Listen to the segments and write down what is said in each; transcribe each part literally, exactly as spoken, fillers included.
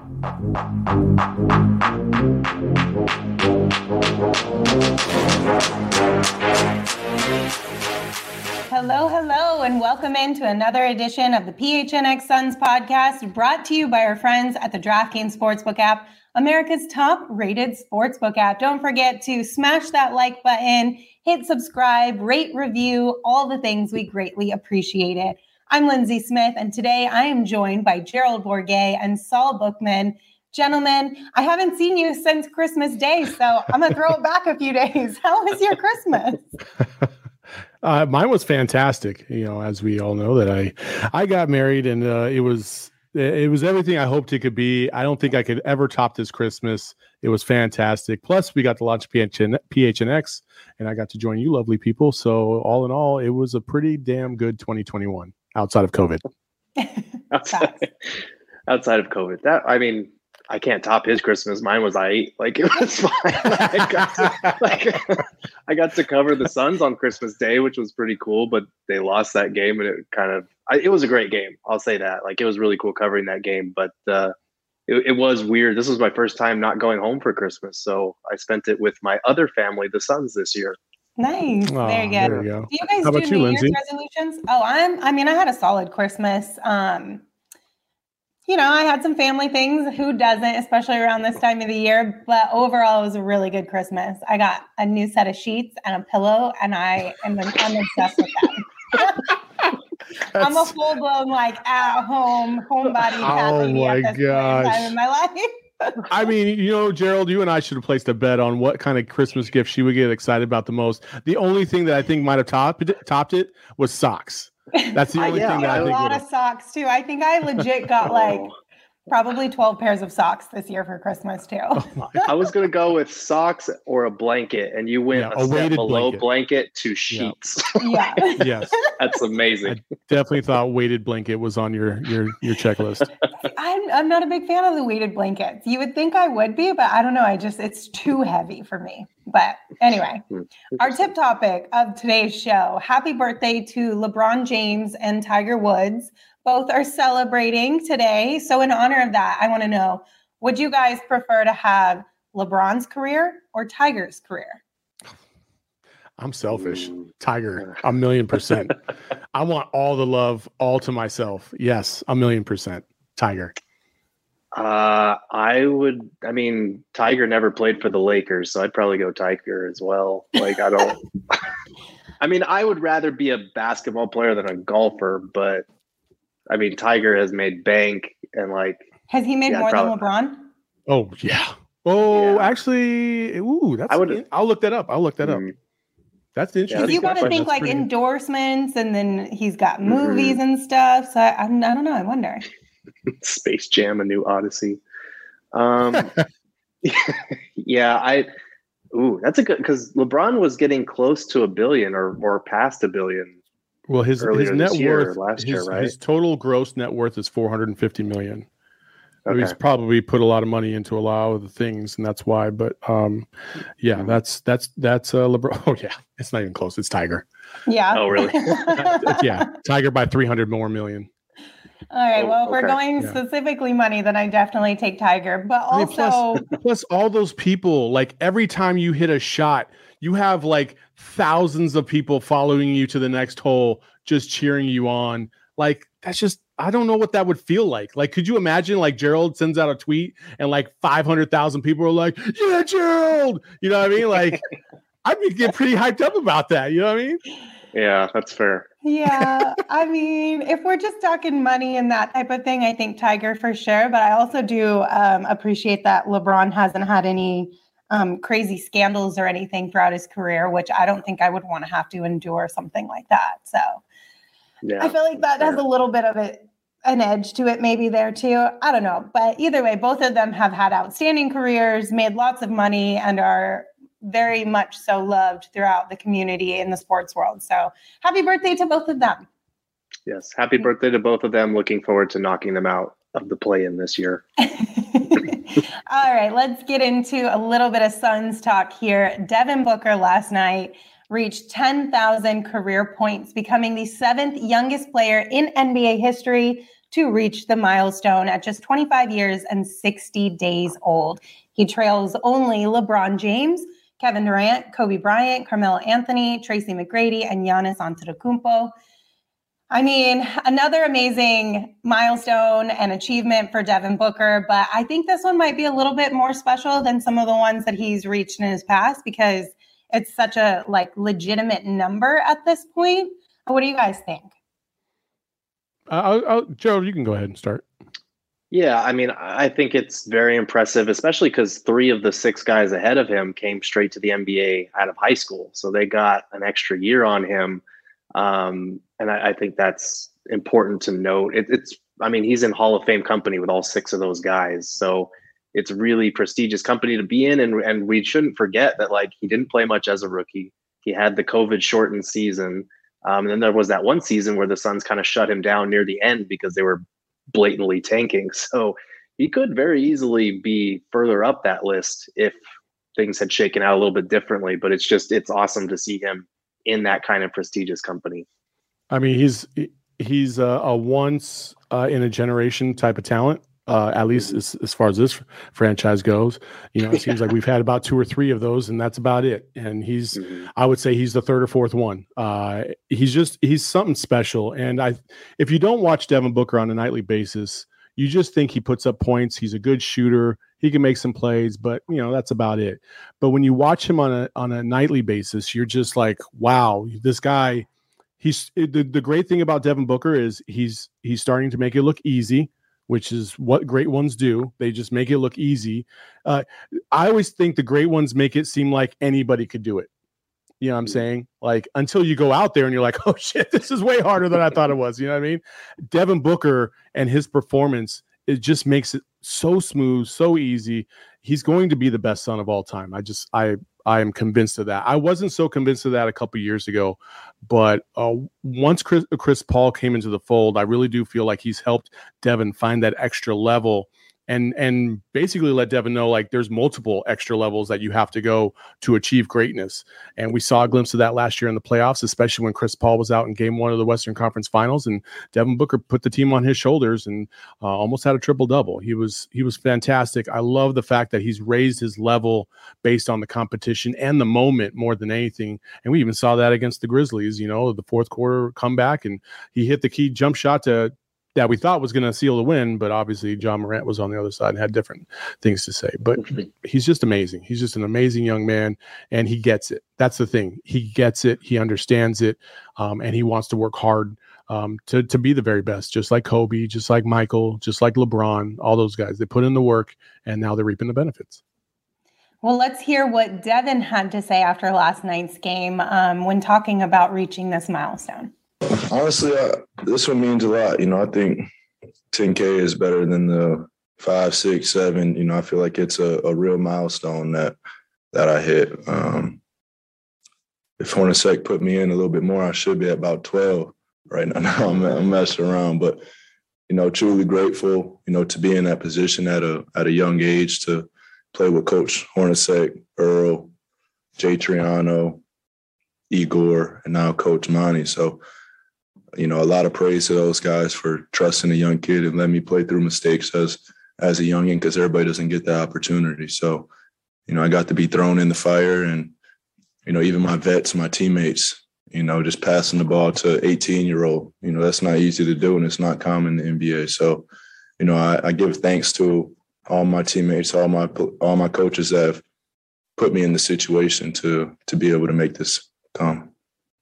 Hello, hello, and welcome into another edition of the P H N X Suns podcast, brought to you by our friends at the DraftKings Sportsbook app, America's top-rated sportsbook app. Don't forget to smash that like button, hit subscribe, rate, review, all the things. We greatly appreciate it. I'm Lindsay Smith, and today I am joined by Gerald Bourguet and Saul Bookman. Gentlemen, I haven't seen you since Christmas Day, so I'm going to throw it back a few days. How was your Christmas? Uh, mine was fantastic. You know, as we all know, that I, I got married, and uh, it was it was everything I hoped it could be. I don't think I could ever top this Christmas. It was fantastic. Plus, we got to launch P H N, P H N X, and I got to join you, lovely people. So, all in all, it was a pretty damn good twenty twenty-one outside of COVID. outside, outside of COVID, that I mean. I can't top his Christmas. Mine was I ate like it was fine. I, got to, like, I got to cover the Suns on Christmas Day, which was pretty cool. But they lost that game, and it kind of I, it was a great game. I'll say that. Like it was really cool covering that game. But uh, it, it was weird. This was my first time not going home for Christmas, so I spent it with my other family, the Suns, this year. Nice. Oh, there you go. There you go. Do you guys How do about New you, Year's Lindsay? resolutions? Oh, I'm. I mean, I had a solid Christmas. Um, You know, I had some family things. Who doesn't, especially around this time of the year? But overall, it was a really good Christmas. I got a new set of sheets and a pillow, and I am I'm obsessed with them. I'm a full blown like at home homebody cat Oh lady my at this point in gosh. time in my life. I mean, you know, Gerald, you and I should have placed a bet on what kind of Christmas gift she would get excited about the most. The only thing that I think might have topped it, topped it was socks. That's the only yeah, thing that I a think. lot would've- of socks too. I think I legit got like probably twelve pairs of socks this year for Christmas too. I was gonna go with socks or a blanket, and you went Yeah, a, a step weighted below blanket. blanket to sheets. Yeah. Yes, That's amazing. I definitely thought weighted blanket was on your your your checklist. I'm I'm not a big fan of the weighted blankets. You would think I would be, but I don't know. I just it's too heavy for me. But anyway, our tip topic of today's show. Happy birthday to LeBron James and Tiger Woods. Both are celebrating today. So in honor of that, I want to know, would you guys prefer to have LeBron's career or Tiger's career? I'm selfish. Ooh. Tiger, a million percent. I want all the love, all to myself. Yes, a million percent. Tiger. Uh, I would. I mean, Tiger never played for the Lakers, so I'd probably go Tiger as well. Like, I don't. I mean, I would rather be a basketball player than a golfer, but I mean, Tiger has made bank and like. Has he made Yeah, more probably. than LeBron? Oh yeah. Oh, Yeah. actually, ooh, that's. I would- I'll look that up. I'll look that up. Mm, That's interesting. that's You got to question. think That's like pretty- endorsements, and then he's got Mhm. movies and stuff. So I, I'm, I don't know. I wonder. Space Jam: A New Odyssey. Um, yeah, I. Ooh, that's a good because LeBron was getting close to a billion or or past a billion. Well, his earlier his net this year or worth, last his, year, right? his total gross net worth is four hundred fifty million. So Okay. he's probably put a lot of money into a lot of the things, and that's why. But um, yeah, Mhm. that's that's that's uh, LeBron. Oh yeah, it's not even close. It's Tiger. Yeah. Oh, really? Yeah, Tiger by three hundred more million. All right. Oh, Well, if we're okay. going Yeah. specifically money, then I definitely take Tiger. But I mean, also, plus, plus all those people, like every time you hit a shot, you have like thousands of people following you to the next hole, just cheering you on. Like that's just, I don't know what that would feel like. Like, could you imagine like Gerald sends out a tweet and like five hundred thousand people are like, yeah, Gerald, you know what I mean? Like I'd be get pretty hyped up about that. You know what I mean? Yeah, that's fair. yeah, I mean, if we're just talking money and that type of thing, I think Tiger for sure. But I also do um, appreciate that LeBron hasn't had any um, crazy scandals or anything throughout his career, which I don't think I would want to have to endure something like that. So Yeah, I feel like that has a little bit of it, an edge to it maybe there too. I don't know. But either way, both of them have had outstanding careers, made lots of money, and are very much so loved throughout the community in the sports world. So happy birthday to both of them. yes. Happy birthday to both of them. Looking forward to knocking them out of the play-in this year. All right, let's get into a little bit of Suns talk here. Devin Booker last night reached ten thousand career points, becoming the seventh youngest player in N B A history to reach the milestone at just twenty-five years and sixty days old. He trails only LeBron James, Kevin Durant, Kobe Bryant, Carmelo Anthony, Tracy McGrady, and Giannis Antetokounmpo. I mean, another amazing milestone and achievement for Devin Booker, but I think this one might be a little bit more special than some of the ones that he's reached in his past because it's such a like legitimate number at this point. What do you guys think? Uh, I'll, I'll, Joe, you can go ahead and start. Yeah, I mean, I think it's very impressive, especially because three of the six guys ahead of him came straight to the N B A out of high school. So they got an extra year on him. Um, and I, I think that's important to note. It, it's, I mean, he's in Hall of Fame company with all six of those guys. So it's really prestigious company to be in. And, and we shouldn't forget that, like, he didn't play much as a rookie. He had the COVID shortened season. Um, and then there was that one season where the Suns kind of shut him down near the end because they were blatantly tanking. So he could very easily be further up that list if things had shaken out a little bit differently. But it's just, it's awesome to see him in that kind of prestigious company. I mean, he's he's a, a once uh, in a generation type of talent, uh, at least as, as far as this franchise goes. You know, it seems like we've had about two or three of those, and that's about it. And he's, mm-hmm. I would say, he's the third or fourth one. Uh, he's just he's something special. And I, if you don't watch Devin Booker on a nightly basis, you just think he puts up points. He's a good shooter. He can make some plays, but you know, that's about it. But when you watch him on a on a nightly basis, you're just like, wow, this guy, he's the, the great thing about Devin Booker is he's he's starting to make it look easy, which is what great ones do. They just make it look easy. Uh, I always think the great ones make it seem like anybody could do it. You know what I'm saying? Like, until you go out there and you're like, oh shit, this is way harder than I thought it was. You know what I mean? Devin Booker and his performance, it just makes it so smooth, so easy. He's going to be the best son of all time. I just, I, I am convinced of that. I wasn't so convinced of that a couple years ago, but uh, once Chris, Chris Paul came into the fold, I really do feel like he's helped Devin find that extra level and and basically let Devin know, like, there's multiple extra levels that you have to go to achieve greatness. And we saw a glimpse of that last year in the playoffs, especially when Chris Paul was out in game one of the Western Conference Finals, and Devin Booker put the team on his shoulders and uh, almost had a triple-double. He was he was fantastic. I love the fact that he's raised his level based on the competition and the moment more than anything. And we even saw that against the Grizzlies, you know, the fourth quarter comeback, and he hit the key jump shot to that we thought was going to seal the win, but obviously John Morant was on the other side and had different things to say. But he's just amazing. He's just an amazing young man, and he gets it. That's the thing. He gets it. He understands it, um, and he wants to work hard um, to to be the very best, just like Kobe, just like Michael, just like LeBron, all those guys. They put in the work, and now they're reaping the benefits. Well, let's hear what Devin had to say after last night's game um, when talking about reaching this milestone. Honestly, uh, this one means a lot. You know, I think ten K is better than the five, six, seven. You know, I feel like it's a, a real milestone that that I hit. Um, if Hornacek put me in a little bit more, I should be at about twelve right now. Now I'm, I'm messing around, but you know, truly grateful. You know, to be in that position at a at a young age, to play with Coach Hornacek, Earl, Jay Triano, Igor, and now Coach Monty. So, you know, a lot of praise to those guys for trusting a young kid and letting me play through mistakes as as a youngin', because everybody doesn't get that opportunity. So, you know, I got to be thrown in the fire, and, you know, even my vets, my teammates, you know, just passing the ball to eighteen-year-old, you know, that's not easy to do, and it's not common in the N B A. So, you know, I, I give thanks to all my teammates, all my all my coaches that have put me in the situation to to be able to make this come.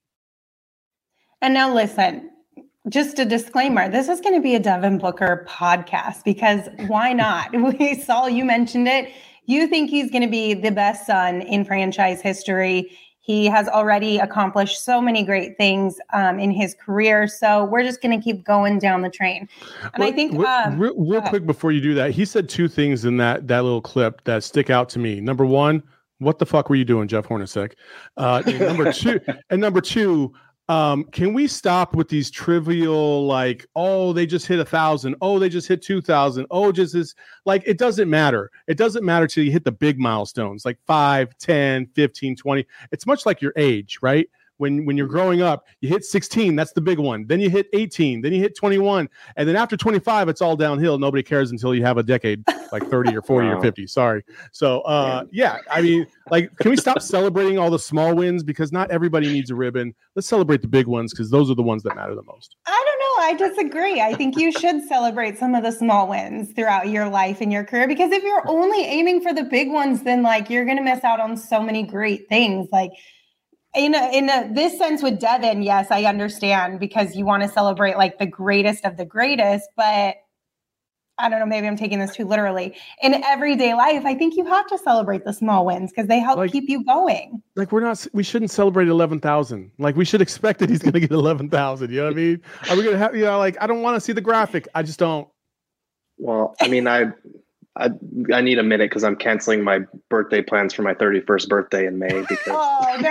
And now listen, just a disclaimer, this is going to be a Devin Booker podcast, because why not? We saw, you mentioned it. You think he's going to be the best son in franchise history. He has already accomplished so many great things um, in his career. So we're just going to keep going down the train. And well, I think um, real, real quick before you do that, he said two things in that that little clip that stick out to me. Number one, what the fuck were you doing, Jeff Hornacek? Uh, number two, and number two, Um, can we stop with these trivial, like, oh, they just hit a thousand. Oh, they just hit two thousand. Oh, just this, like, it doesn't matter. It doesn't matter till you hit the big milestones, like five, ten, fifteen, twenty. It's much like your age, right? when when you're growing up, you hit sixteen, that's the big one. Then you hit eighteen, then you hit twenty-one, and then after twenty-five, it's all downhill. Nobody cares until you have a decade, like thirty or forty wow. or fifty. Sorry. So, uh, yeah, I mean, like, can we stop celebrating all the small wins, because not everybody needs a ribbon? Let's celebrate the big ones, because those are the ones that matter the most. I don't know. I disagree. I think you should celebrate some of the small wins throughout your life and your career, because if you're only aiming for the big ones, then like you're going to miss out on so many great things. Like in a, in a, this sense with Devin, yes, I understand, because you want to celebrate like the greatest of the greatest, but I don't know, maybe I'm taking this too literally. In everyday life, I think you have to celebrate the small wins because they help like, keep you going. Like we're not, we shouldn't celebrate eleven thousand. Like we should expect that he's going to get eleven thousand. You know what I mean? Are we going to have, you know, like, I don't want to see the graphic. I just don't. Well, I mean, I, I, I need a minute because I'm canceling my birthday plans for my thirty-first birthday in May. Because oh, no.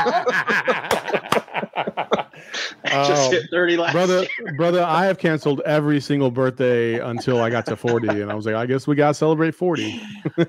I just hit thirty last brother, year. Brother, I have canceled every single birthday until I got to forty. And I was like, I guess we got to celebrate forty.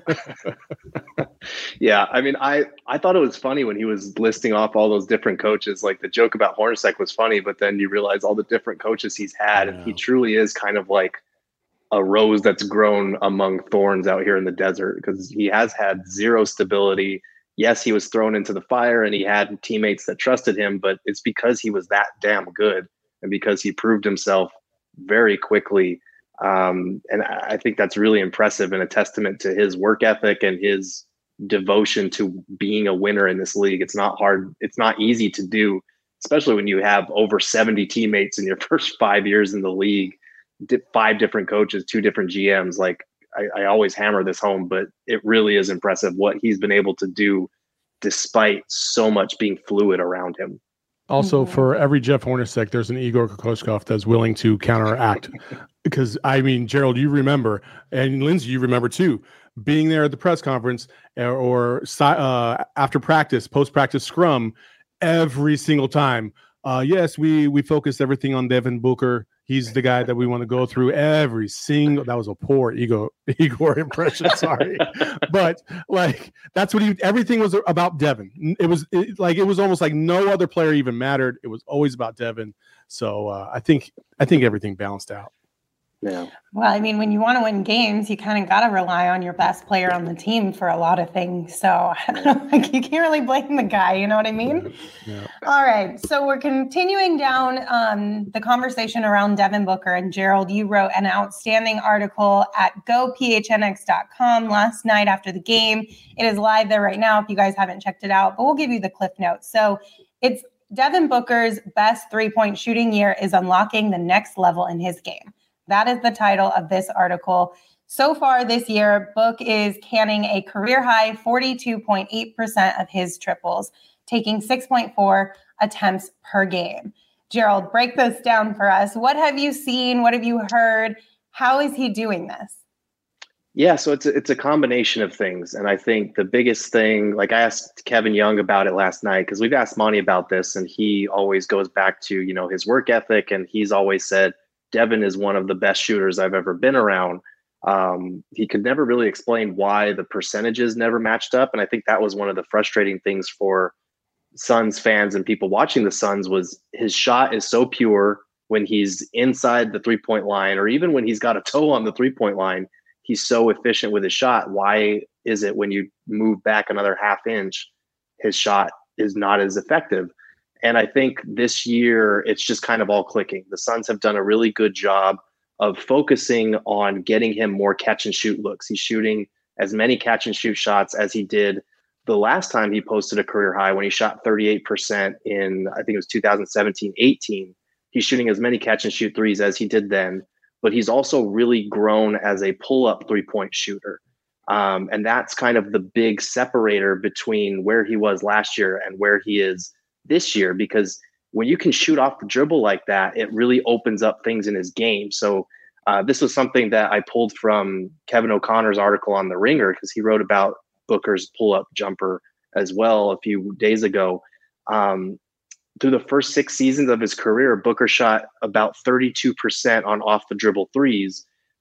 Yeah. I mean, I, I thought it was funny when he was listing off all those different coaches. Like the joke about Hornacek was funny, but then you realize all the different coaches he's had. And he truly is kind of like a rose that's grown among thorns out here in the desert, because he has had zero stability. Yes, he was thrown into the fire and he had teammates that trusted him, but it's because he was that damn good and because he proved himself very quickly. Um, and I think that's really impressive and a testament to his work ethic and his devotion to being a winner in this league. It's not hard. It's not easy to do, especially when you have over seventy teammates in your first five years in the league, five different coaches, two different G Ms. Like I, I always hammer this home, but it really is impressive what he's been able to do despite so much being fluid around him. Also, for every Jeff Hornacek, there's an Igor Kokoskov that's willing to counteract. Because, I mean, Gerald, you remember, and Lindsay, you remember too, being there at the press conference or, or uh, after practice, post-practice scrum, every single time. Uh, yes, we we focused everything on Devin Booker. He's the guy that we want to go through every single. That was a poor ego Igor impression. Sorry, but like that's what he. Everything was about Devin. It was it, like it was almost like no other player even mattered. It was always about Devin. So uh, I think I think everything balanced out. Yeah. Well, I mean, when you want to win games, you kind of got to rely on your best player on the team for a lot of things. So I don't know, like you can't really blame the guy. You know what I mean? Yeah. All right. So we're continuing down um, the conversation around Devin Booker. And Gerald, you wrote an outstanding article at go P H N X dot com last night after the game. It is live there right now if you guys haven't checked it out, but we'll give you the cliff notes. So it's Devin Booker's best three-point shooting year is unlocking the next level in his game. That is the title of this article. So far this year, Book is canning a career-high forty-two point eight percent of his triples, taking six point four attempts per game. Gerald, break this down for us. What have you seen? What have you heard? How is he doing this? Yeah, so it's a, it's a combination of things. And I think the biggest thing, like I asked Kevin Young about it last night, because we've asked Monty about this, and he always goes back to, you know, his work ethic. And he's always said, Devin is one of the best shooters I've ever been around. Um, he could never really explain why the percentages never matched up. And I think that was one of the frustrating things for Suns fans and people watching the Suns was his shot is so pure when he's inside the three-point line, or even when he's got a toe on the three-point line, he's so efficient with his shot. Why is it when you move back another half inch, his shot is not as effective? And I think this year, it's just kind of all clicking. The Suns have done a really good job of focusing on getting him more catch and shoot looks. He's shooting as many catch and shoot shots as he did the last time he posted a career high when he shot thirty-eight percent in, I think it was two thousand seventeen eighteen. He's shooting as many catch and shoot threes as he did then, but he's also really grown as a pull-up three-point shooter. Um, and that's kind of the big separator between where he was last year and where he is this year, because when you can shoot off the dribble like that, it really opens up things in his game. So uh, this was something that I pulled from Kevin O'Connor's article on The Ringer, because he wrote about Booker's pull-up jumper as well a few days ago. Um, through the first six seasons of his career, Booker shot about thirty-two percent on off the dribble threes.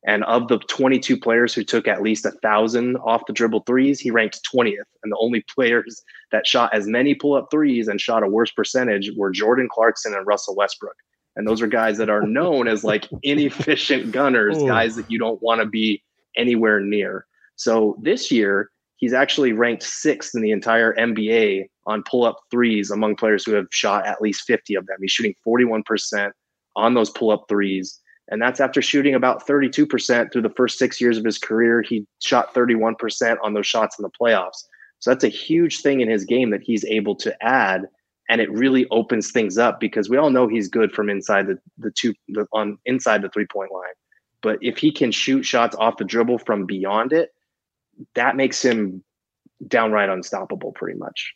And of the twenty-two players who took at least a thousand off the dribble threes, he ranked twentieth. And the only players that shot as many pull-up threes and shot a worse percentage were Jordan Clarkson and Russell Westbrook. And those are guys that are known as like inefficient gunners, Ooh. guys that you don't want to be anywhere near. So this year, he's actually ranked sixth in the entire N B A on pull-up threes among players who have shot at least fifty of them. He's shooting forty-one percent on those pull-up threes. And that's after shooting about thirty-two percent through the first six years of his career. He shot thirty-one percent on those shots in the playoffs. So that's a huge thing in his game that he's able to add. And it really opens things up because we all know he's good from inside the, the two the, on inside the three-point line. But if he can shoot shots off the dribble from beyond it, that makes him downright unstoppable pretty much.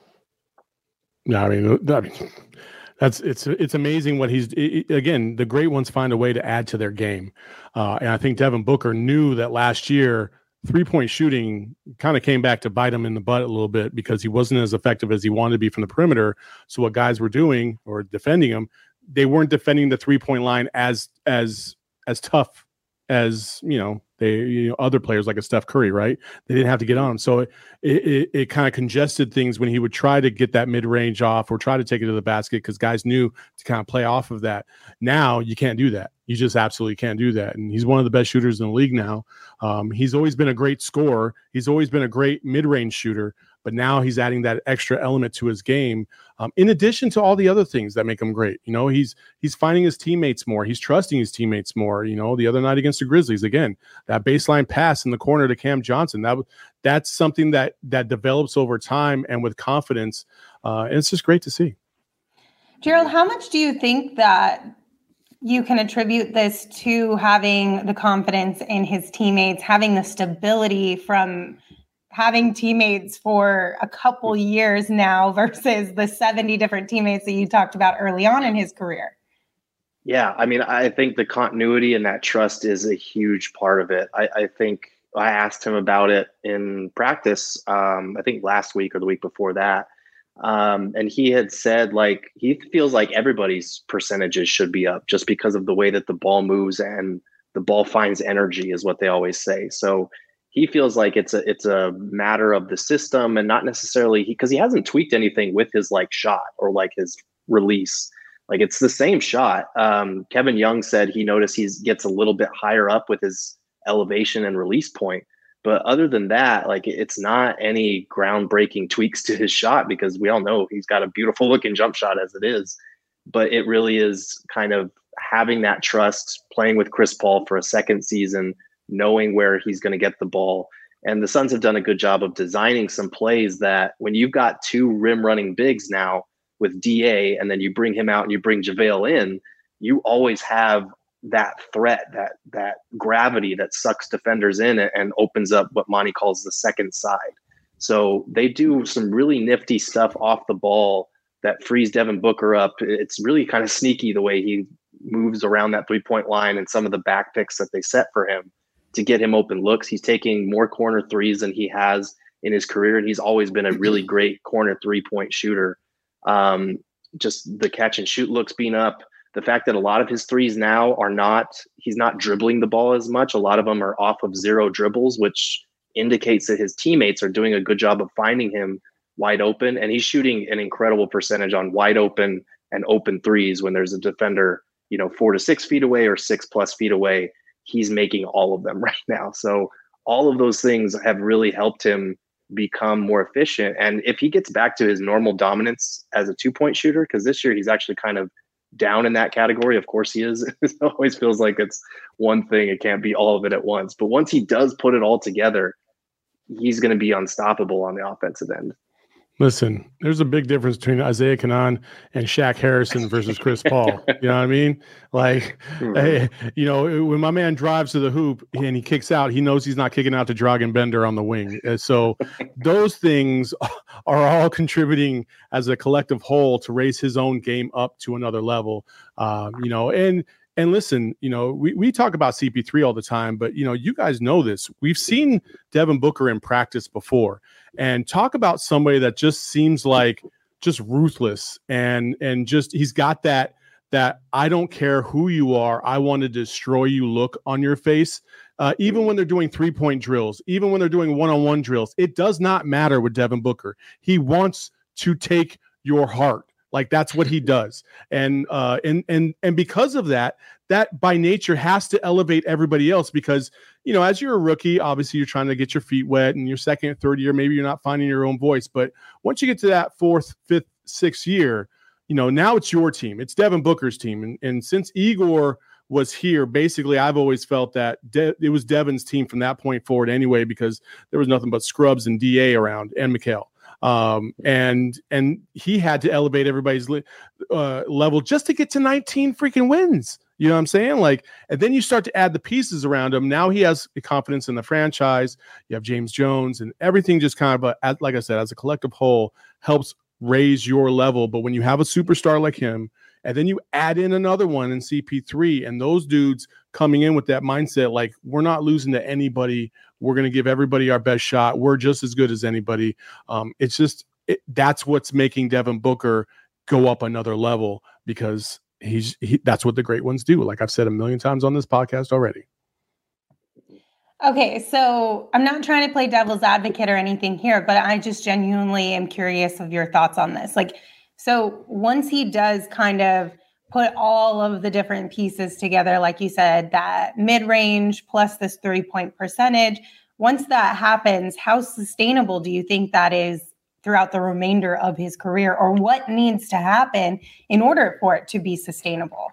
Yeah, I mean, I mean that's it's it's amazing what he's it, again, the great ones find a way to add to their game. Uh, and I think Devin Booker knew that last year three-point shooting kind of came back to bite him in the butt a little bit because he wasn't as effective as he wanted to be from the perimeter. So what guys were doing or defending him, they weren't defending the three-point line as as as tough as, you know, they, you know, other players like a Steph Curry, right? They didn't have to get on him. So it, it, it kind of congested things when he would try to get that mid-range off or try to take it to the basket because guys knew to kind of play off of that. Now you can't do that. You just absolutely can't do that. And he's one of the best shooters in the league now. Um, he's always been a great scorer. He's always been a great mid-range shooter, but now he's adding that extra element to his game. Um, in addition to all the other things that make him great, you know, he's, he's finding his teammates more. He's trusting his teammates more. You know, the other night against the Grizzlies, again, that baseline pass in the corner to Cam Johnson, that that's something that, that develops over time and with confidence. Uh, and it's just great to see. Gerald, how much do you think that you can attribute this to having the confidence in his teammates, having the stability from having teammates for a couple years now versus the seventy different teammates that you talked about early on in his career? Yeah, I mean, I think the continuity and that trust is a huge part of it. I, I think I asked him about it in practice, um, I think last week or the week before that. Um, and he had said, like, he feels like everybody's percentages should be up just because of the way that the ball moves and the ball finds energy is what they always say. So he feels like it's a, it's a matter of the system and not necessarily because he, he hasn't tweaked anything with his like shot or like his release. Like it's the same shot. Um, Kevin Young said he noticed he gets a little bit higher up with his elevation and release point. But other than that, like it's not any groundbreaking tweaks to his shot because we all know he's got a beautiful looking jump shot as it is. But it really is kind of having that trust, playing with Chris Paul for a second season, knowing where he's going to get the ball. And the Suns have done a good job of designing some plays that when you've got two rim running bigs now with D A and then you bring him out and you bring JaVale in, you always have that threat, that that gravity that sucks defenders in and, and opens up what Monty calls the second side. So they do some really nifty stuff off the ball that frees Devin Booker up. It's really kind of sneaky the way he moves around that three-point line and some of the back picks that they set for him to get him open looks. He's taking more corner threes than he has in his career, and he's always been a really great corner three-point shooter. Um, just the catch and shoot looks being up. The fact that a lot of his threes now are not, he's not dribbling the ball as much. A lot of them are off of zero dribbles, which indicates that his teammates are doing a good job of finding him wide open. And he's shooting an incredible percentage on wide open and open threes when there's a defender, you know, four to six feet away or six plus feet away. He's making all of them right now. So all of those things have really helped him become more efficient. And if he gets back to his normal dominance as a two-point shooter, because this year he's actually kind of down in that category. Of course he is. It always feels like it's one thing. It can't be all of it at once. But once he does put it all together, he's going to be unstoppable on the offensive end. Listen, there's a big difference between Isaiah Canaan and Shaq Harrison versus Chris Paul. You know what I mean? Like, mm-hmm. hey, you know, when my man drives to the hoop and he kicks out, he knows he's not kicking out to Dragan Bender on the wing. And so those things are all contributing as a collective whole to raise his own game up to another level. Um, you know, and And listen, you know, we, we talk about C P three all the time, but, you know, you guys know this. We've seen Devin Booker in practice before, and talk about somebody that just seems like just ruthless and and just he's got that that I don't care who you are, I want to destroy you look on your face. Uh, even when they're doing three-point drills, even when they're doing one-on-one drills, it does not matter with Devin Booker. He wants to take your heart. Like that's what he does. And uh, and and and because of that, that by nature has to elevate everybody else because, you know, as you're a rookie, obviously you're trying to get your feet wet, and your second and third year, maybe you're not finding your own voice. But once you get to that fourth, fifth, sixth year, you know, now it's your team. It's Devin Booker's team. And, and since Igor was here, basically, I've always felt that De- it was Devin's team from that point forward anyway, because there was nothing but scrubs and D A around and Mikal. Um, and and he had to elevate everybody's li- uh, level just to get to nineteen freaking wins. You know what I'm saying? Like, and then you start to add the pieces around him. Now he has confidence in the franchise. You have James Jones, and everything just kind of, uh, like I said, as a collective whole, helps raise your level. But when you have a superstar like him, and then you add in another one in C P three, and those dudes coming in with that mindset, like, we're not losing to anybody. We're going to give everybody our best shot. We're just as good as anybody. Um, it's just it, that's what's making Devin Booker go up another level, because he's he, that's what the great ones do. Like I've said a million times on this podcast already. Okay, so I'm not trying to play devil's advocate or anything here, but I just genuinely am curious of your thoughts on this. Like, so once he does kind of put all of the different pieces together, like you said, that mid-range plus this three-point percentage, once that happens, how sustainable do you think that is throughout the remainder of his career, or what needs to happen in order for it to be sustainable?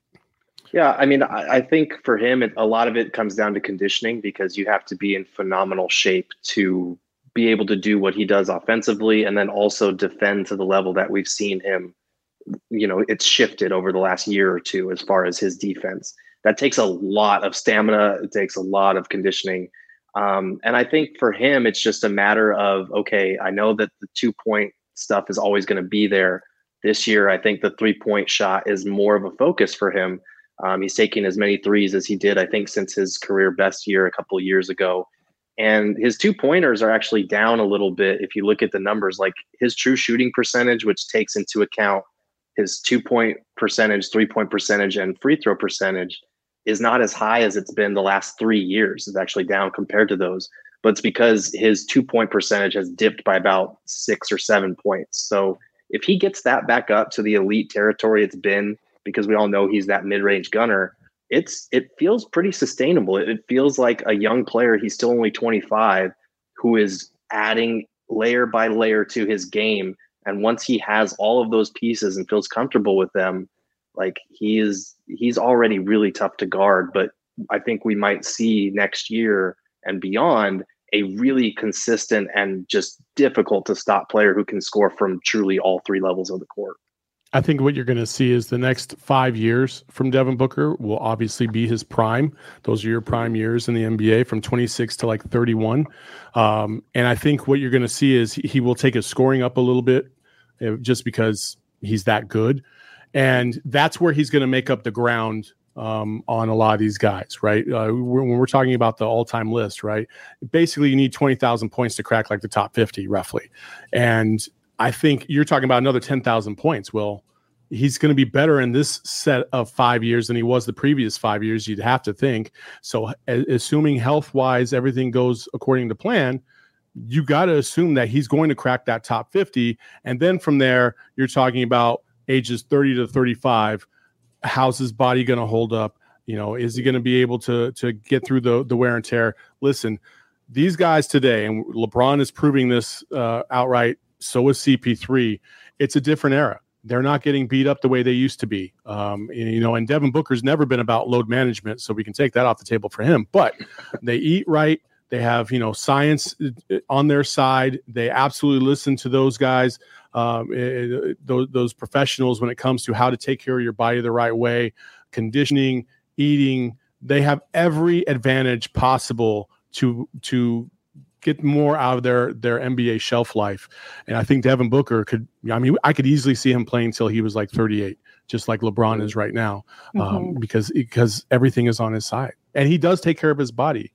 Yeah, I mean, I, I think for him, it, a lot of it comes down to conditioning, because you have to be in phenomenal shape to be able to do what he does offensively, and then also defend to the level that we've seen him. You know, it's shifted over the last year or two as far as his defense. That takes a lot of stamina. It takes a lot of conditioning. Um, and I think for him, it's just a matter of, okay, I know that the two point stuff is always going to be there. This year, I think the three point shot is more of a focus for him. Um, he's taking as many threes as he did, I think, since his career best year a couple of years ago. And his two pointers are actually down a little bit. If you look at the numbers, like his true shooting percentage, which takes into account his two point percentage, three point percentage, and free throw percentage, is not as high as it's been the last three years. It's actually down compared to those, but it's because his two point percentage has dipped by about six or seven points. So if he gets that back up to the elite territory it's been, because we all know he's that mid-range gunner, it's, it feels pretty sustainable. It, it feels like a young player. He's still only twenty-five, who is adding layer by layer to his game. And once he has all of those pieces and feels comfortable with them, like he is, he's already really tough to guard. But I think we might see next year and beyond a really consistent and just difficult to stop player who can score from truly all three levels of the court. I think what you're going to see is the next five years from Devin Booker will obviously be his prime. Those are your prime years in the N B A, from twenty-six to like thirty-one. Um, and I think what you're going to see is he, he will take his scoring up a little bit, uh, just because he's that good. And that's where he's going to make up the ground um, on a lot of these guys, right? Uh, when we're talking about the all-time list, right? Basically, you need twenty thousand points to crack like the top fifty, roughly. And I think you're talking about another ten thousand points. Well, he's going to be better in this set of five years than he was the previous five years, you'd have to think. So a- assuming health-wise everything goes according to plan, you got to assume that he's going to crack that top fifty. And then from there, you're talking about ages thirty to thirty-five. How's his body going to hold up? You know, is he going to be able to, to get through the, the wear and tear? Listen, these guys today, and LeBron is proving this uh, outright, so is C P three. It's a different era. They're not getting beat up the way they used to be. Um, you know, and Devin Booker's never been about load management, so we can take that off the table for him. But they eat right. They have, you know, science on their side. They absolutely listen to those guys, um, it, those, those professionals when it comes to how to take care of your body the right way, conditioning, eating. They have every advantage possible to to get more out of their their N B A shelf life. And I think Devin Booker could, I mean, I could easily see him playing till he was like thirty-eight, just like LeBron is right now, um, mm-hmm. because because everything is on his side. And he does take care of his body.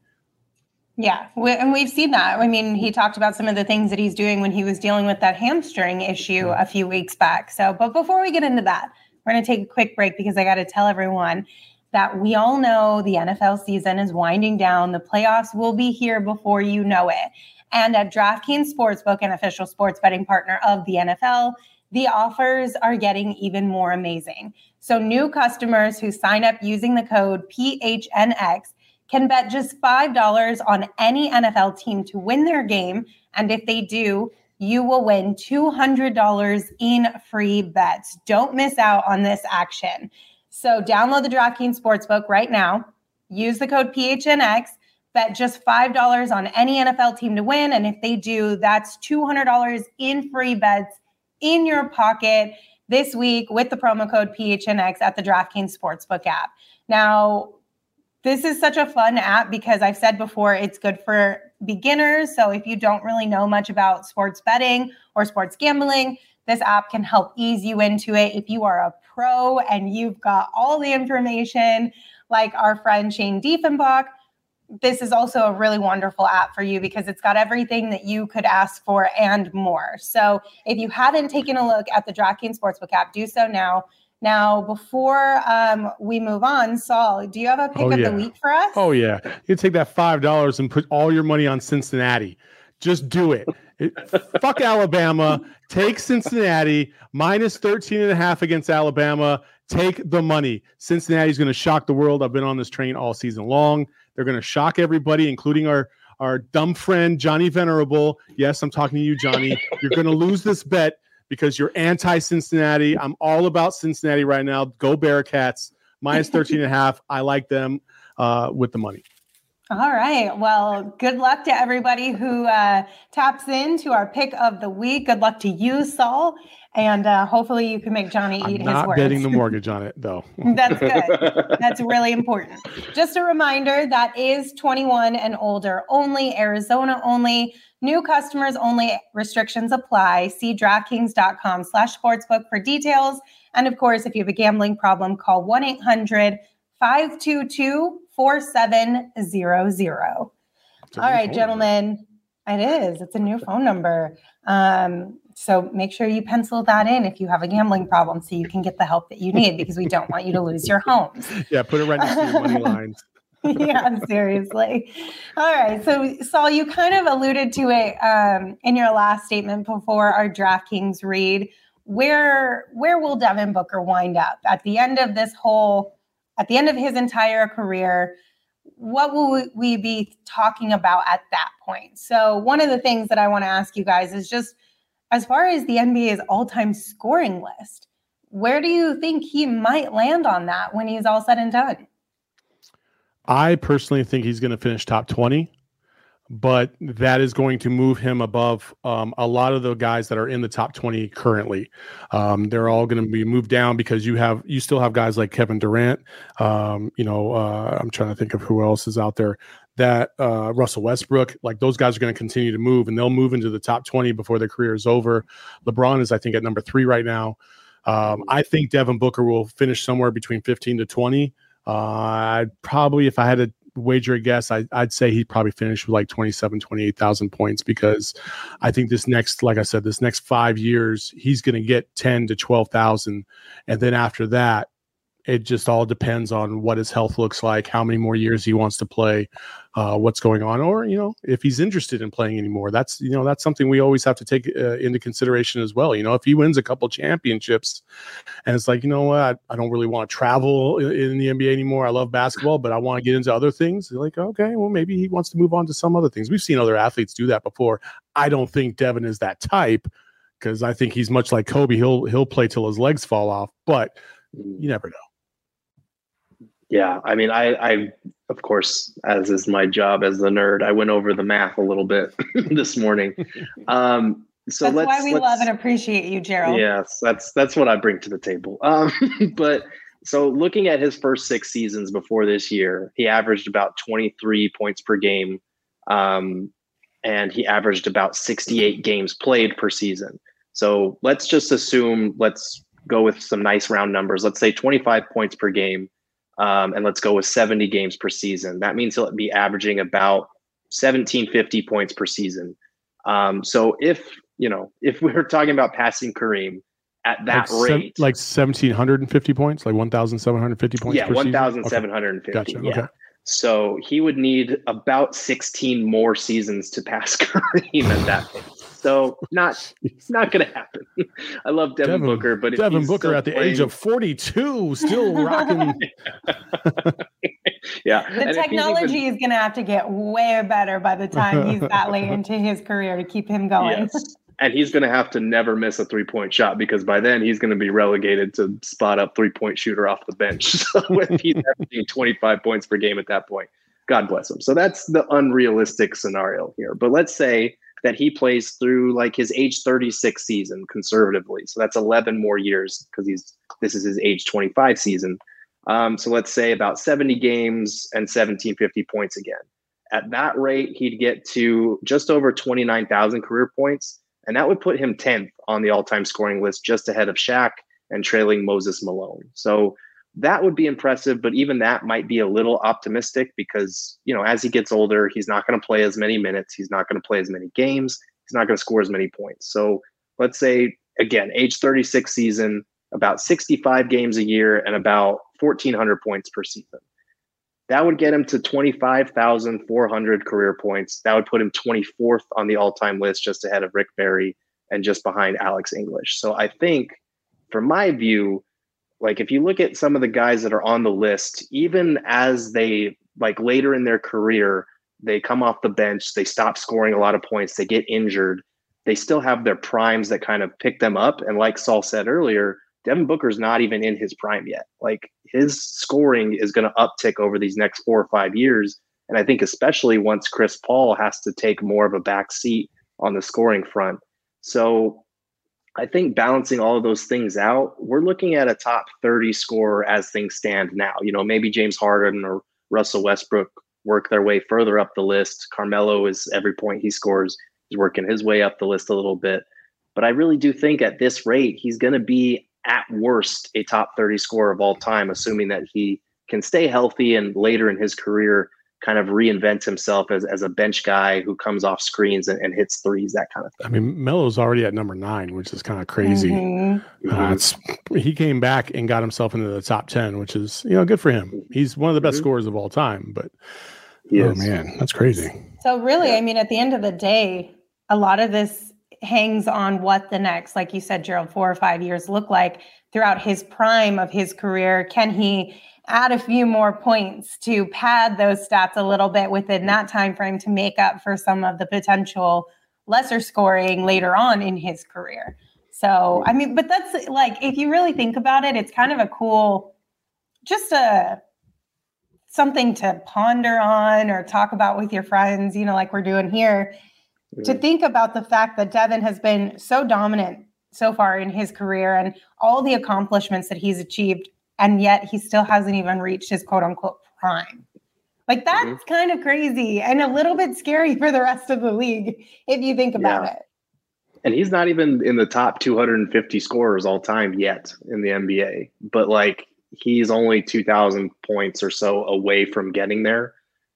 Yeah, we, and we've seen that. I mean, he talked about some of the things that he's doing when he was dealing with that hamstring issue a few weeks back. So, but before we get into that, we're going to take a quick break because I got to tell everyone that we all know the N F L season is winding down. The playoffs will be here before you know it. And at DraftKings Sportsbook, an official sports betting partner of the N F L, the offers are getting even more amazing. So new customers who sign up using the code P H N X can bet just five dollars on any N F L team to win their game. And if they do, you will win two hundred dollars in free bets. Don't miss out on this action. So download the DraftKings Sportsbook right now. Use the code P H N X. Bet just five dollars on any N F L team to win. And if they do, that's two hundred dollars in free bets in your pocket this week with the promo code P H N X at the DraftKings Sportsbook app. Now, this is such a fun app because I've said before, it's good for beginners. So if you don't really know much about sports betting or sports gambling, this app can help ease you into it. If you are a pro and you've got all the information, like our friend Shane Diefenbach, this is also a really wonderful app for you because it's got everything that you could ask for and more. So if you haven't taken a look at the DraftKings Sportsbook app, do so now. Now, before um, we move on, Saul, do you have a pick oh, of yeah. the week for us? Oh, yeah. You take that five dollars and put all your money on Cincinnati. Just do it. it fuck Alabama. Take Cincinnati minus thirteen and a half against Alabama. Take the money. Cincinnati's going to shock the world. I've been on this train all season long. They're going to shock everybody, including our, our dumb friend, Johnny Venerable. Yes, I'm talking to you, Johnny. You're going to lose this bet because you're anti-Cincinnati. I'm all about Cincinnati right now. Go Bearcats. Minus thirteen and a half. I like them uh, with the money. All right. Well, good luck to everybody who uh, taps into our pick of the week. Good luck to you, Saul. And uh, hopefully you can make Johnny eat I'm his not words. betting the mortgage on it, though. That's good. That's really important. Just a reminder, that is twenty-one and older only, Arizona only. New customers only. Restrictions apply. See DraftKings.com slash sportsbook for details. And of course, if you have a gambling problem, call one eight hundred five two two four seven zero zero. All right, gentlemen. Number. It is. It's a new phone number. Um, so make sure you pencil that in if you have a gambling problem so you can get the help that you need because we don't want you to lose your homes. Yeah, put it right next to your money lines. Yeah, seriously. All right. So, Saul, you kind of alluded to it um, in your last statement before our DraftKings read. Where where will Devin Booker wind up at the end of this whole, at the end of his entire career? What will we be talking about at that point? So one of the things that I want to ask you guys is just as far as the N B A's all-time scoring list, where do you think he might land on that when he's all said and done? I personally think he's going to finish top twenty, but that is going to move him above um, a lot of the guys that are in the top twenty currently. Um, they're all going to be moved down because you have you still have guys like Kevin Durant. Um, you know, uh, I'm trying to think of who else is out there. That uh, Russell Westbrook, like those guys are going to continue to move, and they'll move into the top twenty before their career is over. LeBron is, I think, at number three right now. Um, I think Devin Booker will finish somewhere between fifteen to twenty. Uh, I'd probably, if I had to wager a guess, I, I'd say he'd probably finish with like twenty-seven, twenty-eight thousand points because I think this next, like I said, this next five years, he's going to get ten to twelve thousand. And then after that, it just all depends on what his health looks like, how many more years he wants to play, uh, what's going on, or, you know, if he's interested in playing anymore. That's, you know, that's something we always have to take uh, into consideration as well. You know, if he wins a couple championships and it's like, you know what, I, I don't really want to travel in, in the N B A anymore. I love basketball, but I want to get into other things. You're like, okay, well, maybe he wants to move on to some other things. We've seen other athletes do that before. I don't think Devin is that type because I think he's much like Kobe. He'll, he'll play till his legs fall off, but you never know. Yeah, I mean, I, I, of course, as is my job as the nerd, I went over the math a little bit this morning. Um, so that's let's, why we let's, love and appreciate you, Gerald. Yes, that's that's what I bring to the table. Um, but so looking at his first six seasons before this year, he averaged about twenty-three points per game, um, and he averaged about sixty-eight games played per season. So let's just assume, let's go with some nice round numbers. Let's say twenty-five points per game. Um, and let's go with seventy games per season. That means he'll be averaging about seventeen fifty points per season. Um, so if, you know, if we were talking about passing Kareem at that like rate. Se- like one thousand seven hundred fifty points, like one thousand seven hundred fifty points. Yeah, one thousand seven hundred fifty. Okay. Gotcha. Yeah. Okay. So he would need about sixteen more seasons to pass Kareem at that point. So not not going to happen. I love Devin, Devin Booker, but if Devin Booker at the playing... age of forty-two, still rocking. Yeah, the and technology even... is going to have to get way better by the time he's that late into his career to keep him going. Yes. And he's going to have to never miss a three-point shot because by then he's going to be relegated to spot up three-point shooter off the bench. So if he's averaging twenty-five points per game at that point, God bless him. So that's the unrealistic scenario here. But let's say that he plays through like his age thirty-six season conservatively. So that's eleven more years because he's this is his age twenty-five season. Um, so let's say about seventy games and seventeen fifty points again. At that rate, he'd get to just over twenty-nine thousand career points. And that would put him tenth on the all-time scoring list, just ahead of Shaq and trailing Moses Malone. So that would be impressive, but even that might be a little optimistic because, you know, as he gets older, he's not going to play as many minutes. He's not going to play as many games. He's not going to score as many points. So let's say, again, age thirty-six season, about sixty-five games a year and about fourteen hundred points per season. That would get him to twenty-five thousand four hundred career points. That would put him twenty-fourth on the all-time list, just ahead of Rick Barry and just behind Alex English. So I think, from my view, like if you look at some of the guys that are on the list, even as they like later in their career, they come off the bench, they stop scoring a lot of points, they get injured, they still have their primes that kind of pick them up. And like Saul said earlier, Devin Booker's not even in his prime yet. Like his scoring is going to uptick over these next four or five years. And I think especially once Chris Paul has to take more of a back seat on the scoring front. So I think balancing all of those things out, we're looking at a top thirty scorer as things stand now. You know, maybe James Harden or Russell Westbrook work their way further up the list. Carmelo is every point he scores, he's working his way up the list a little bit. But I really do think at this rate, he's going to be at worst a top thirty scorer of all time, assuming that he can stay healthy and later in his career kind of reinvent himself as, as a bench guy who comes off screens and, and hits threes, that kind of thing. I mean, Melo's already at number nine, which is kind of crazy. Mm-hmm. Uh, it's, he came back and got himself into the top ten, which is, you know, good for him. He's one of the best mm-hmm. scorers of all time, but he oh is. man, that's crazy. So really, I mean, at the end of the day, a lot of this hangs on what the next, like you said, Gerald, four or five years look like throughout his prime of his career. Can he add a few more points to pad those stats a little bit within that time frame to make up for some of the potential lesser scoring later on in his career? So, I mean, but that's like, if you really think about it, it's kind of a cool, just a something to ponder on or talk about with your friends, you know, like we're doing here. To think about the fact that Devin has been so dominant so far in his career and all the accomplishments that he's achieved, and yet he still hasn't even reached his quote unquote prime. Like that's mm-hmm. kind of crazy and a little bit scary for the rest of the league if you think about yeah. it. And he's not even in the top two hundred fifty scorers all time yet in the N B A, but like he's only two thousand points or so away from getting there.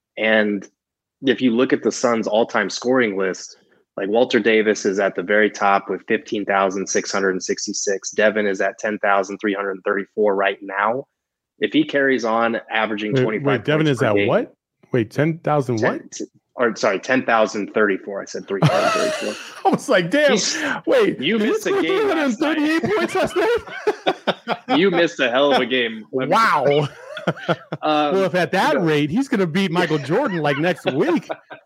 And if you look at the Suns' all-time scoring list, like Walter Davis is at the very top with fifteen thousand six hundred sixty-six. Devin is at ten thousand three hundred thirty-four right now. If he carries on averaging wait, twenty-five wait, Devin is at game, what? Wait, ten thousand what? T- or sorry, ten thousand thirty-four. I said three thousand thirty-four. I was like, damn, He's, wait. You missed a game last night. points last night? You missed a hell of a game. Wow. Um, well, if at that no. rate, he's going to beat Michael Jordan like next week.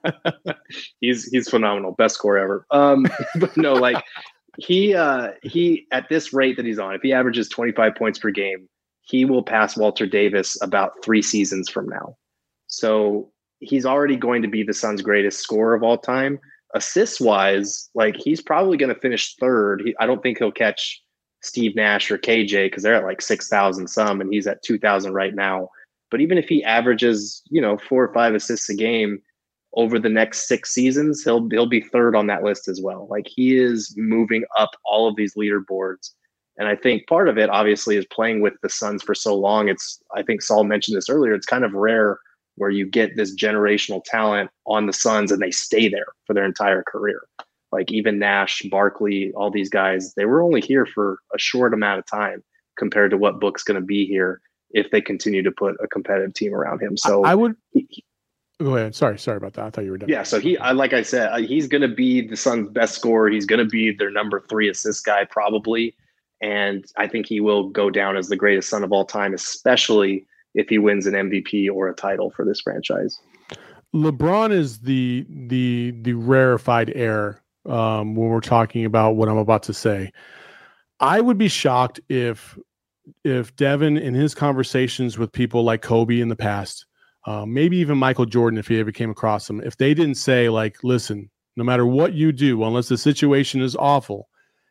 he's he's phenomenal, best score ever. Um, but no, like he uh, he at this rate that he's on, if he averages twenty-five points per game, he will pass Walter Davis about three seasons from now. So he's already going to be the Suns' greatest scorer of all time. Assists wise, like he's probably going to finish third. He, I don't think he'll catch Steve Nash or K J because they're at like six thousand some and he's at two thousand right now. But even if he averages, you know, four or five assists a game over the next six seasons, he'll he'll be third on that list as well. Like he is moving up all of these leaderboards. And I think part of it obviously is playing with the Suns for so long. It's, I think Saul mentioned this earlier, it's kind of rare where you get this generational talent on the Suns and they stay there for their entire career. Like even Nash, Barkley, all these guys, they were only here for a short amount of time compared to what Book's going to be here if they continue to put a competitive team around him. So I, I would he, go ahead. Sorry, sorry about that. I thought you were done. Yeah, so he, I, like I said, he's going to be the Suns' best scorer. He's going to be their number three assist guy probably, and I think he will go down as the greatest Sun of all time, especially if he wins an M V P or a title for this franchise. LeBron is the the the rarefied air um, when we're talking about what I'm about to say. I would be shocked if if Devin, in his conversations with people like Kobe in the past, uh, maybe even Michael Jordan, if he ever came across him, if they didn't say, like, listen, no matter what you do, unless the situation is awful,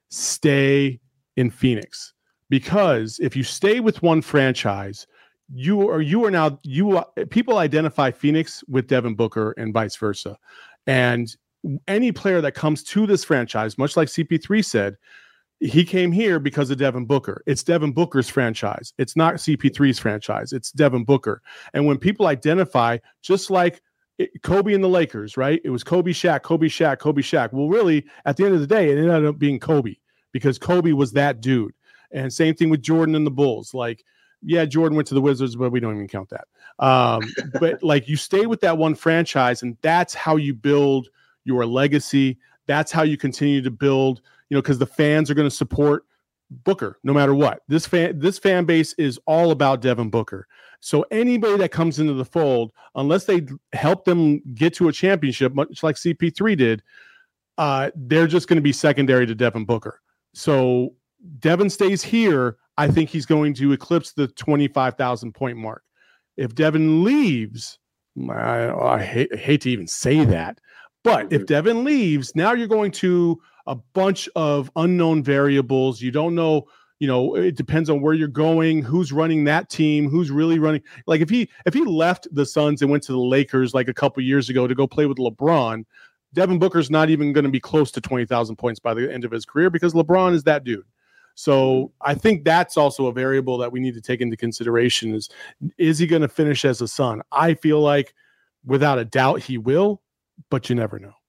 stay in Phoenix. Because if you stay with one franchise, you are you are now you are, people identify Phoenix with Devin Booker and vice versa. And any player that comes to this franchise, much like C P three said, he came here because of Devin Booker. It's Devin Booker's franchise. It's not C P three's franchise. It's Devin Booker. And when people identify, just like it, Kobe and the Lakers, right? It was Kobe, Shaq, Kobe, Shaq, Kobe, Shaq. Well, really, at the end of the day, it ended up being Kobe because Kobe was that dude. And same thing with Jordan and the Bulls. Like, yeah, Jordan went to the Wizards, but we don't even count that. Um, but like, you stay with that one franchise, and that's how you build your legacy. That's how you continue to build, you know, because the fans are going to support Booker no matter what. This fan, this fan base is all about Devin Booker. So anybody that comes into the fold, unless they help them get to a championship, much like C P three did, uh, they're just going to be secondary to Devin Booker. So Devin stays here, I think he's going to eclipse the twenty-five thousand point mark. If Devin leaves, I, I, hate, I hate to even say that, but if Devin leaves, now you're going to a bunch of unknown variables. You don't know, you know, it depends on where you're going, who's running that team, who's really running. Like if he if he left the Suns and went to the Lakers like a couple years ago to go play with LeBron, Devin Booker's not even going to be close to twenty thousand points by the end of his career because LeBron is that dude. So I think that's also a variable that we need to take into consideration is, is he going to finish as a Sun? I feel like without a doubt he will, but you never know.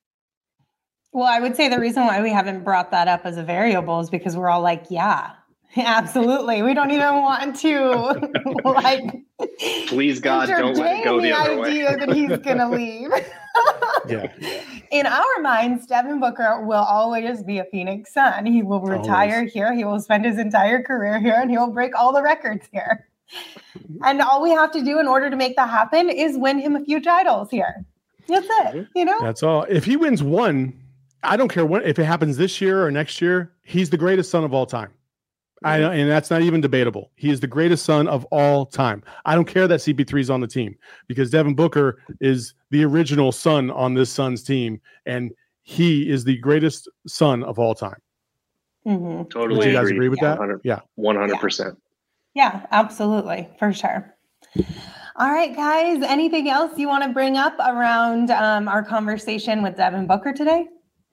Well, I would say the reason why we haven't brought that up as a variable is because we're all like, yeah, absolutely. We don't even want to like, please God, don't let it go the, the other way. idea that he's going to leave. yeah. In our minds, Devin Booker will always be a Phoenix Sun. He will retire always. here. He will spend his entire career here, and he will break all the records here. And all we have to do in order to make that happen is win him a few titles here. That's it. You know, that's all. If he wins one, I don't care what, if it happens this year or next year, he's the greatest Sun of all time. I and that's not even debatable. He is the greatest Sun of all time. I don't care that C P three is on the team because Devin Booker is the original Sun on this Suns team, and he is the greatest Sun of all time. Mm-hmm. Totally. Would you guys agree. agree with yeah. that? Yeah, one hundred percent. Yeah, absolutely, for sure. All right, guys. Anything else you want to bring up around um, our conversation with Devin Booker today?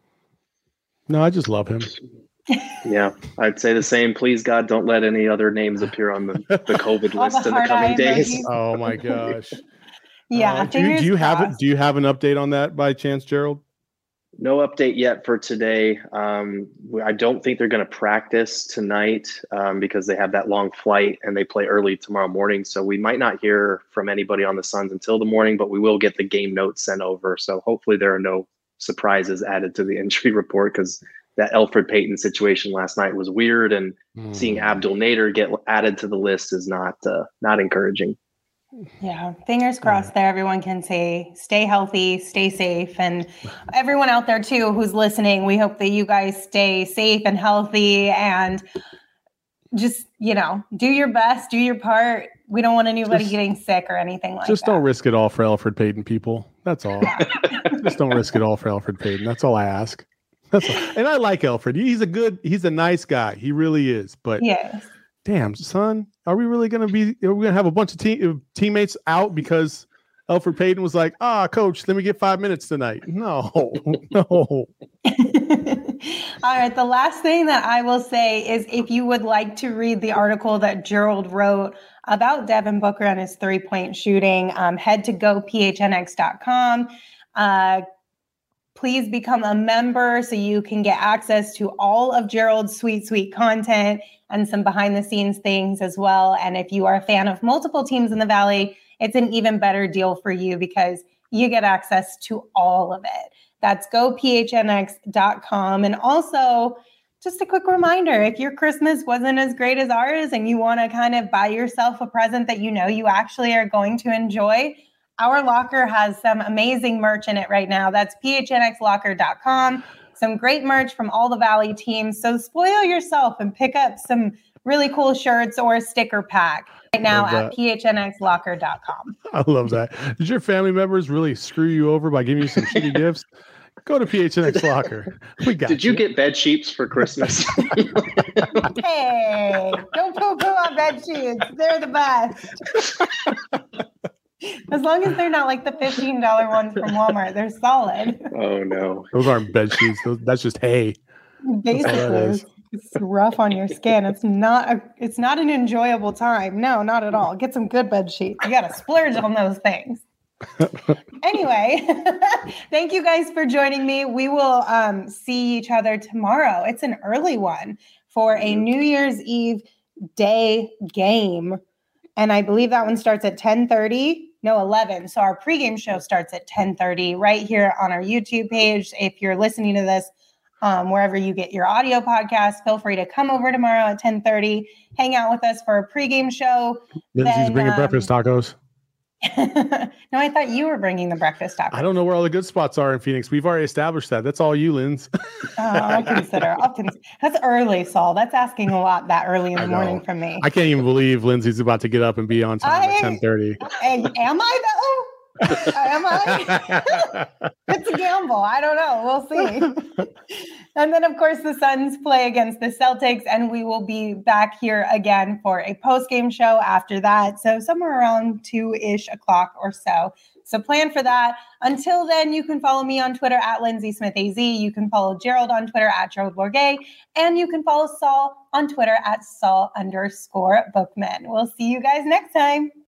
No, I just love him. Yeah, I'd say the same. Please, God, don't let any other names appear on the, the COVID list the in the coming days. Emojis. Oh my gosh. Yeah. Uh, do, do you have it? Do you have an update on that by chance, Gerald? No update yet for today. Um, I don't think they're going to practice tonight um, because they have that long flight and they play early tomorrow morning. So we might not hear from anybody on the Suns until the morning, but we will get the game notes sent over. So hopefully there are no surprises added to the injury report because that Elfrid Payton situation last night was weird, and mm. seeing Abdel Nader get added to the list is not uh, not encouraging. Yeah, fingers crossed there. Everyone can say, stay healthy, stay safe. And everyone out there too, who's listening, we hope that you guys stay safe and healthy and just, you know, do your best, do your part. We don't want anybody just, getting sick or anything like just that. Just don't risk it all for Elfrid Payton, people. That's all. Just don't risk it all for Elfrid Payton. That's all I ask. That's all. And I like Elfrid. He's a good, he's a nice guy. He really is. But yes. Damn, son, are we really going to be, are we going to have a bunch of team, teammates out because Elfrid Payton was like, ah, coach, let me get five minutes tonight. No, no. All right. The last thing that I will say is if you would like to read the article that Gerald wrote about Devin Booker and his three-point shooting, um, head to go P H N X dot com. Uh, please become a member so you can get access to all of Gerald's sweet, sweet content and some behind the scenes things as well. And if you are a fan of multiple teams in the Valley, it's an even better deal for you because you get access to all of it. That's go P H N X dot com. And also, just a quick reminder, if your Christmas wasn't as great as ours and you want to kind of buy yourself a present that you know you actually are going to enjoy, our locker has some amazing merch in it right now. That's P H N X locker dot com. Some great merch from all the Valley teams. So spoil yourself and pick up some really cool shirts or a sticker pack right now at P H N X locker dot com. I love that. Did your family members really screw you over by giving you some shitty gifts? Go to P H N X Locker. We got Did you, you get bed sheets for Christmas? Hey, don't poo-poo on bed sheets. They're the best. As long as they're not like the fifteen dollars ones from Walmart, they're solid. Oh, no. Those aren't bed sheets. Those, that's just hay. Basically, it's rough on your skin. It's not a, it's not an enjoyable time. No, not at all. Get some good bed sheets. You got to splurge on those things. Anyway, thank you guys for joining me. We will um, see each other tomorrow. It's an early one for a New Year's Eve day game. And I believe that one starts at ten thirty. No, eleven. So our pregame show starts at ten thirty right here on our YouTube page. If you're listening to this um, wherever you get your audio podcast, feel free to come over tomorrow at ten thirty. Hang out with us for a pregame show. Lindsay's then, bringing um, breakfast tacos. No, I thought you were bringing the breakfast tacos. I don't know where all the good spots are in Phoenix. We've already established that. That's all you, Linz. Oh, I'll consider. I'll cons- That's early, Saul. That's asking a lot that early in the morning from me. I can't even believe Lindsay's about to get up and be on time I, at ten thirty. Am I though? Am I? It's a gamble. I don't know. We'll see. And then, of course, the Suns play against the Celtics, and we will be back here again for a post-game show after that. So somewhere around two-ish o'clock or so. So plan for that. Until then, you can follow me on Twitter at Lindsay Smith A Z. You can follow Gerald on Twitter at Gerald Bourget. And you can follow Saul on Twitter at Saul underscore Bookman. We'll see you guys next time.